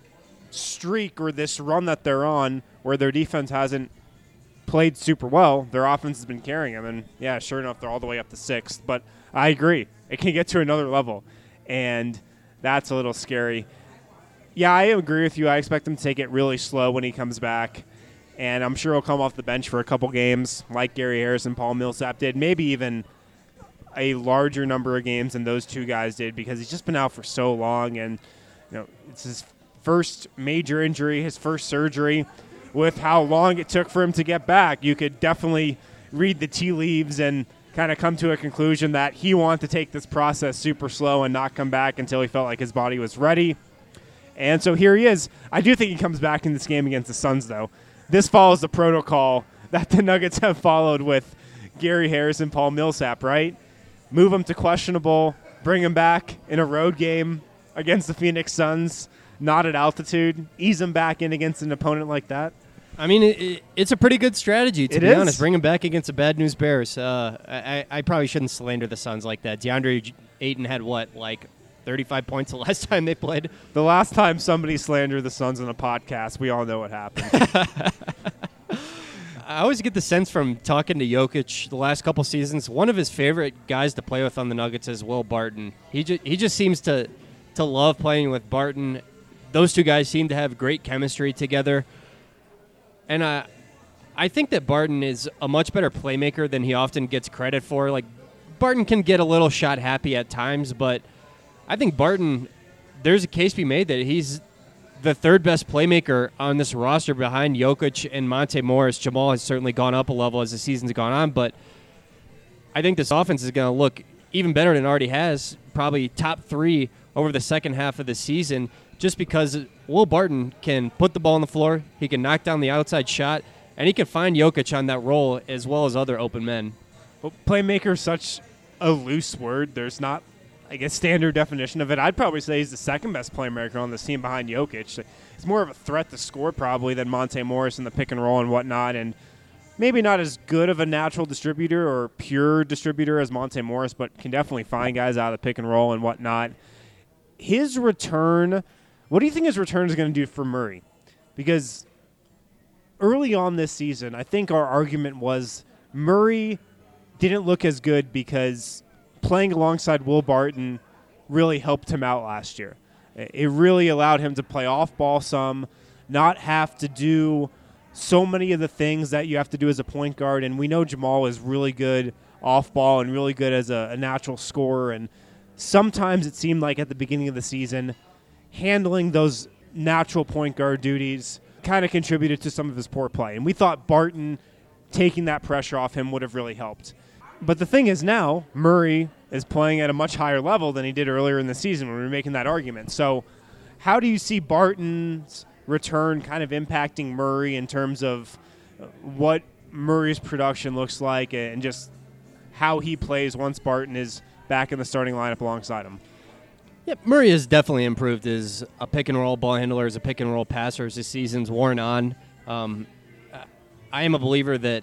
Speaker 6: streak or this run that they're on where their defense hasn't played super well, their offense has been carrying them. And, yeah, sure enough, they're all the way up to 6th. But I agree. It can get to another level. And that's a little scary. Yeah, I agree with you. I expect him to take it really slow when he comes back. And I'm sure he'll come off the bench for a couple games like Gary Harris and Paul Millsap did. Maybe even a larger number of games than those 2 guys did because he's just been out for so long. And, you know, it's his first major injury, his first surgery. With how long it took for him to get back, you could definitely read the tea leaves and kind of come to a conclusion that he wanted to take this process super slow and not come back until he felt like his body was ready. And so here he is. I do think he comes back in this game against the Suns, though. This follows the protocol that the Nuggets have followed with Gary Harris and Paul Millsap, right? Move him to questionable, bring him back in a road game against the Phoenix Suns, not at altitude, ease him back in against an opponent like that.
Speaker 8: I mean, it's a pretty good strategy, to be honest. Bring him back against the bad news Bears. I probably shouldn't slander the Suns like that. DeAndre Ayton had, 35 points the last time they played?
Speaker 6: The last time somebody slandered the Suns on a podcast, we all know what happened.
Speaker 8: I always get the sense from talking to Jokic the last couple seasons, one of his favorite guys to play with on the Nuggets is Will Barton. He just seems to love playing with Barton. Those 2 guys seem to have great chemistry together. And I think that Barton is a much better playmaker than he often gets credit for. Like, Barton can get a little shot happy at times, but I think Barton, there's a case to be made that he's the 3rd best playmaker on this roster behind Jokic and Monte Morris. Jamal has certainly gone up a level as the season's gone on, but I think this offense is going to look even better than it already has, probably top 3 over the second half of the season, just because Will Barton can put the ball on the floor, he can knock down the outside shot, and he can find Jokic on that role as well as other open men.
Speaker 6: Well, playmaker is such a loose word. There's not, I guess, standard definition of it. I'd probably say he's the 2nd best playmaker on this team behind Jokic. He's more of a threat to score probably than Monte Morris in the pick and roll and whatnot, and maybe not as good of a natural distributor or pure distributor as Monte Morris, but can definitely find guys out of the pick and roll and whatnot. His return, what do you think his return is going to do for Murray? Because early on this season, I think our argument was Murray didn't look as good because playing alongside Will Barton really helped him out last year. It really allowed him to play off ball some, not have to do so many of the things that you have to do as a point guard. And we know Jamal is really good off ball and really good as a natural scorer. And sometimes it seemed like at the beginning of the season, handling those natural point guard duties kind of contributed to some of his poor play. And we thought Barton taking that pressure off him would have really helped. But the thing is now, Murray is playing at a much higher level than he did earlier in the season when we were making that argument. So how do you see Barton's return kind of impacting Murray in terms of what Murray's production looks like and just how he plays once Barton is back in the starting lineup alongside him?
Speaker 8: Yeah, Murray has definitely improved as a pick-and-roll ball handler, as a pick-and-roll passer as this season's worn on. I am a believer that,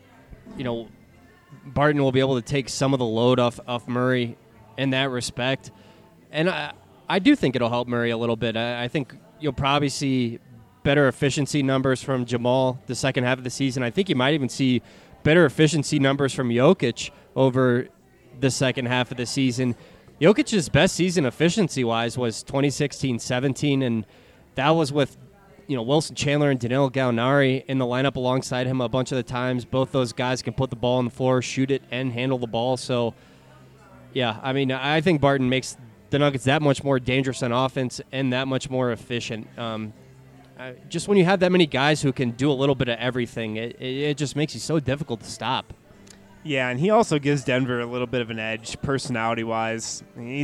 Speaker 8: Barton will be able to take some of the load off Murray in that respect. And I do think it'll help Murray a little bit. I think you'll probably see better efficiency numbers from Jamal the second half of the season. I think you might even see better efficiency numbers from Jokic over the second half of the season. Jokic's best season efficiency-wise was 2016-17, and that was with Wilson Chandler and Danilo Gallinari in the lineup alongside him a bunch of the times. Both those guys can put the ball on the floor, shoot it, and handle the ball. So, yeah, I mean, I think Barton makes the Nuggets that much more dangerous on offense and that much more efficient. Just when you have that many guys who can do a little bit of everything, it just makes you so difficult to stop.
Speaker 6: Yeah, and he also gives Denver a little bit of an edge personality-wise. I mean,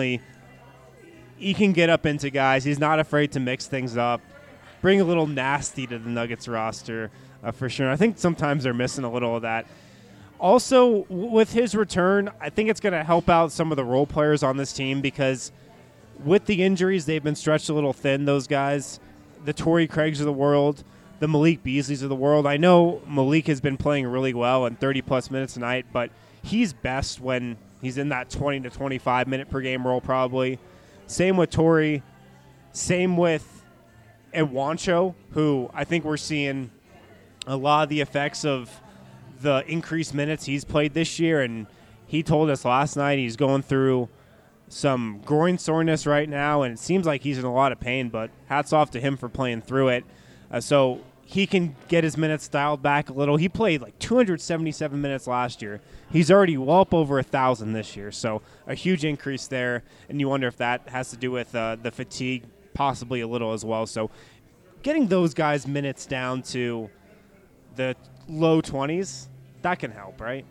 Speaker 6: he can get up into guys. He's not afraid to mix things up, bring a little nasty to the Nuggets roster for sure. I think sometimes they're missing a little of that. Also, with his return, I think it's going to help out some of the role players on this team because with the injuries, they've been stretched a little thin, those guys. The Torrey Craigs of the world, the Malik Beasleys of the world. I know Malik has been playing really well and 30-plus minutes a night, but he's best when he's in that 20 to 25-minute per game role probably. Same with Torrey. Same with Juancho, who I think we're seeing a lot of the effects of the increased minutes he's played this year, and he told us last night he's going through some groin soreness right now, and it seems like he's in a lot of pain, but hats off to him for playing through it. So he can get his minutes dialed back a little. He played like 277 minutes last year. He's already well up over 1,000 this year, so a huge increase there, and you wonder if that has to do with the fatigue, possibly a little as well. So getting those guys' minutes down to the low 20s, that can help, right?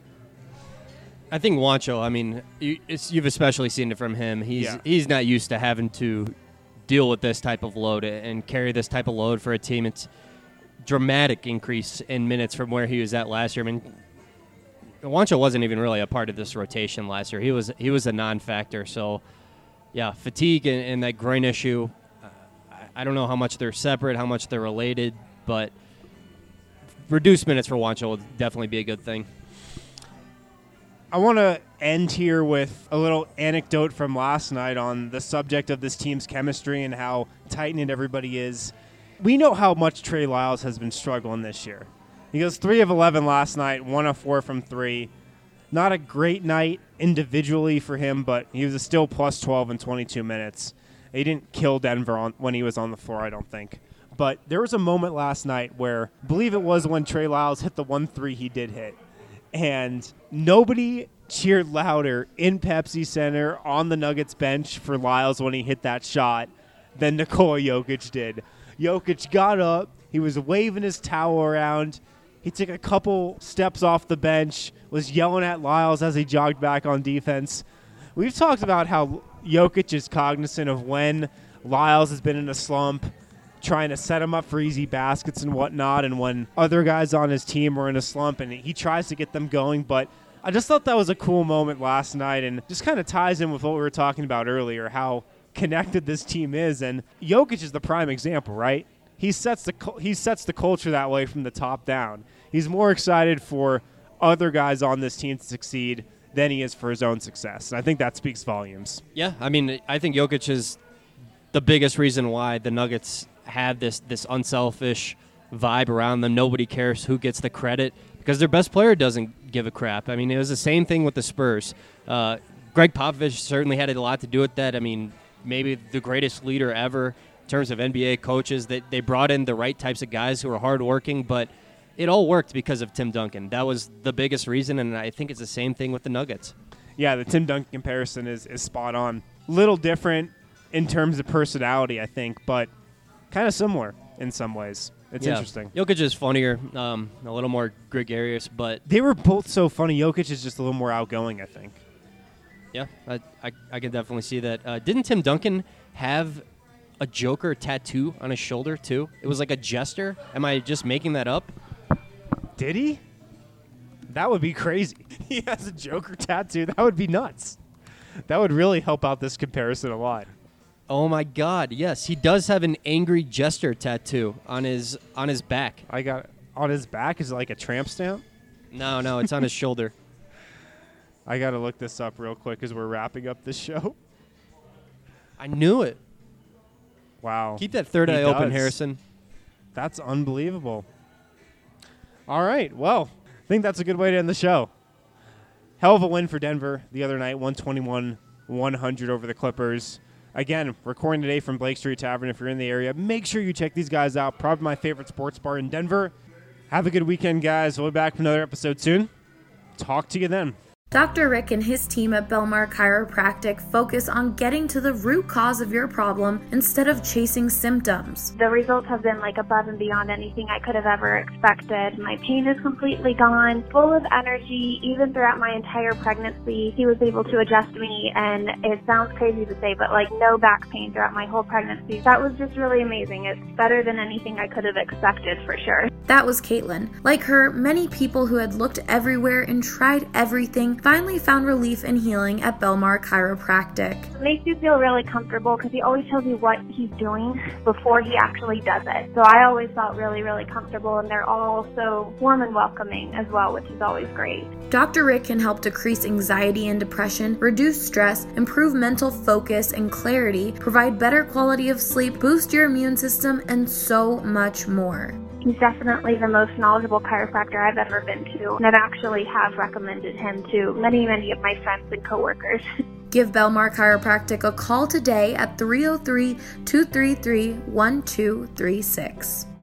Speaker 8: I think Juancho, I mean, you've especially seen it from him. He's not used to having to deal with this type of load and carry this type of load for a team. It's dramatic increase in minutes from where he was at last year. I mean, Juancho wasn't even really a part of this rotation last year. He was a non-factor. So, yeah, fatigue and that groin issue, I don't know how much they're separate, how much they're related, but reduced minutes for Juancho will definitely be a good thing.
Speaker 6: I want to end here with a little anecdote from last night on the subject of this team's chemistry and how tight-knit everybody is. We know how much Trey Lyles has been struggling this year. He goes 3 of 11 last night, 1 of 4 from 3. Not a great night individually for him, but he was still plus 12 in 22 minutes. He didn't kill Denver when he was on the floor, I don't think. But there was a moment last night where, I believe it was when Trey Lyles hit the 1-3 he did hit. And nobody cheered louder in Pepsi Center on the Nuggets bench for Lyles when he hit that shot than Nikola Jokic did. Jokic got up. He was waving his towel around. He took a couple steps off the bench, was yelling at Lyles as he jogged back on defense. We've talked about how Jokic is cognizant of when Lyles has been in a slump, trying to set him up for easy baskets and whatnot, and when other guys on his team are in a slump, and he tries to get them going. But I just thought that was a cool moment last night, and just kind of ties in with what we were talking about earlier, how connected this team is. And Jokic is the prime example, right? He sets the culture that way from the top down. He's more excited for other guys on this team to succeed than he is for his own success. And I think that speaks volumes.
Speaker 8: Yeah, I mean, I think Jokic is the biggest reason why the Nuggets have this unselfish vibe around them. Nobody cares who gets the credit because their best player doesn't give a crap. I mean, it was the same thing with the Spurs. Greg Popovich certainly had a lot to do with that. I mean, maybe the greatest leader ever in terms of NBA coaches. That they brought in the right types of guys who were hardworking, but it all worked because of Tim Duncan. That was the biggest reason, and I think it's the same thing with the Nuggets.
Speaker 6: Yeah, the Tim Duncan comparison is spot on. Little different in terms of personality, I think, but kind of similar in some ways. It's interesting.
Speaker 8: Jokic is funnier, a little more gregarious, but
Speaker 6: they were both so funny. Jokic is just a little more outgoing, I think.
Speaker 8: Yeah, I can definitely see that. Didn't Tim Duncan have a Joker tattoo on his shoulder, too? It was like a jester. Am I just making that up?
Speaker 6: Did he? That would be crazy. He has a Joker tattoo. That would be nuts. That would really help out this comparison a lot.
Speaker 8: Oh, my God. Yes, he does have an angry jester tattoo on his back.
Speaker 6: I got on his back? Is it like a tramp stamp?
Speaker 8: No, it's on his shoulder.
Speaker 6: I got to look this up real quick as we're wrapping up this show.
Speaker 8: I knew it.
Speaker 6: Wow.
Speaker 8: Keep that third eye open, Harrison.
Speaker 6: That's unbelievable. All right. Well, I think that's a good way to end the show. Hell of a win for Denver the other night, 121 100 over the Clippers. Again, recording today from Blake Street Tavern. If you're in the area, make sure you check these guys out. Probably my favorite sports bar in Denver. Have a good weekend, guys. We'll be back with another episode soon. Talk to you then.
Speaker 1: Dr. Rick and his team at Belmar Chiropractic focus on getting to the root cause of your problem instead of chasing symptoms.
Speaker 3: The results have been like above and beyond anything I could have ever expected. My pain is completely gone, full of energy. Even throughout my entire pregnancy, he was able to adjust me, and it sounds crazy to say, but like no back pain throughout my whole pregnancy. That was just really amazing. It's better than anything I could have expected for sure.
Speaker 1: That was Caitlin. Like her, many people who had looked everywhere and tried everything finally found relief and healing at Belmar Chiropractic.
Speaker 3: It makes you feel really comfortable because he always tells you what he's doing before he actually does it. So I always felt really, really comfortable, and they're all so warm and welcoming as well, which is always great.
Speaker 1: Dr. Rick can help decrease anxiety and depression, reduce stress, improve mental focus and clarity, provide better quality of sleep, boost your immune system, and so much more.
Speaker 3: He's definitely the most knowledgeable chiropractor I've ever been to, and I've actually have recommended him to many, many of my friends and coworkers.
Speaker 1: Give Belmar Chiropractic a call today at 303-233-1236.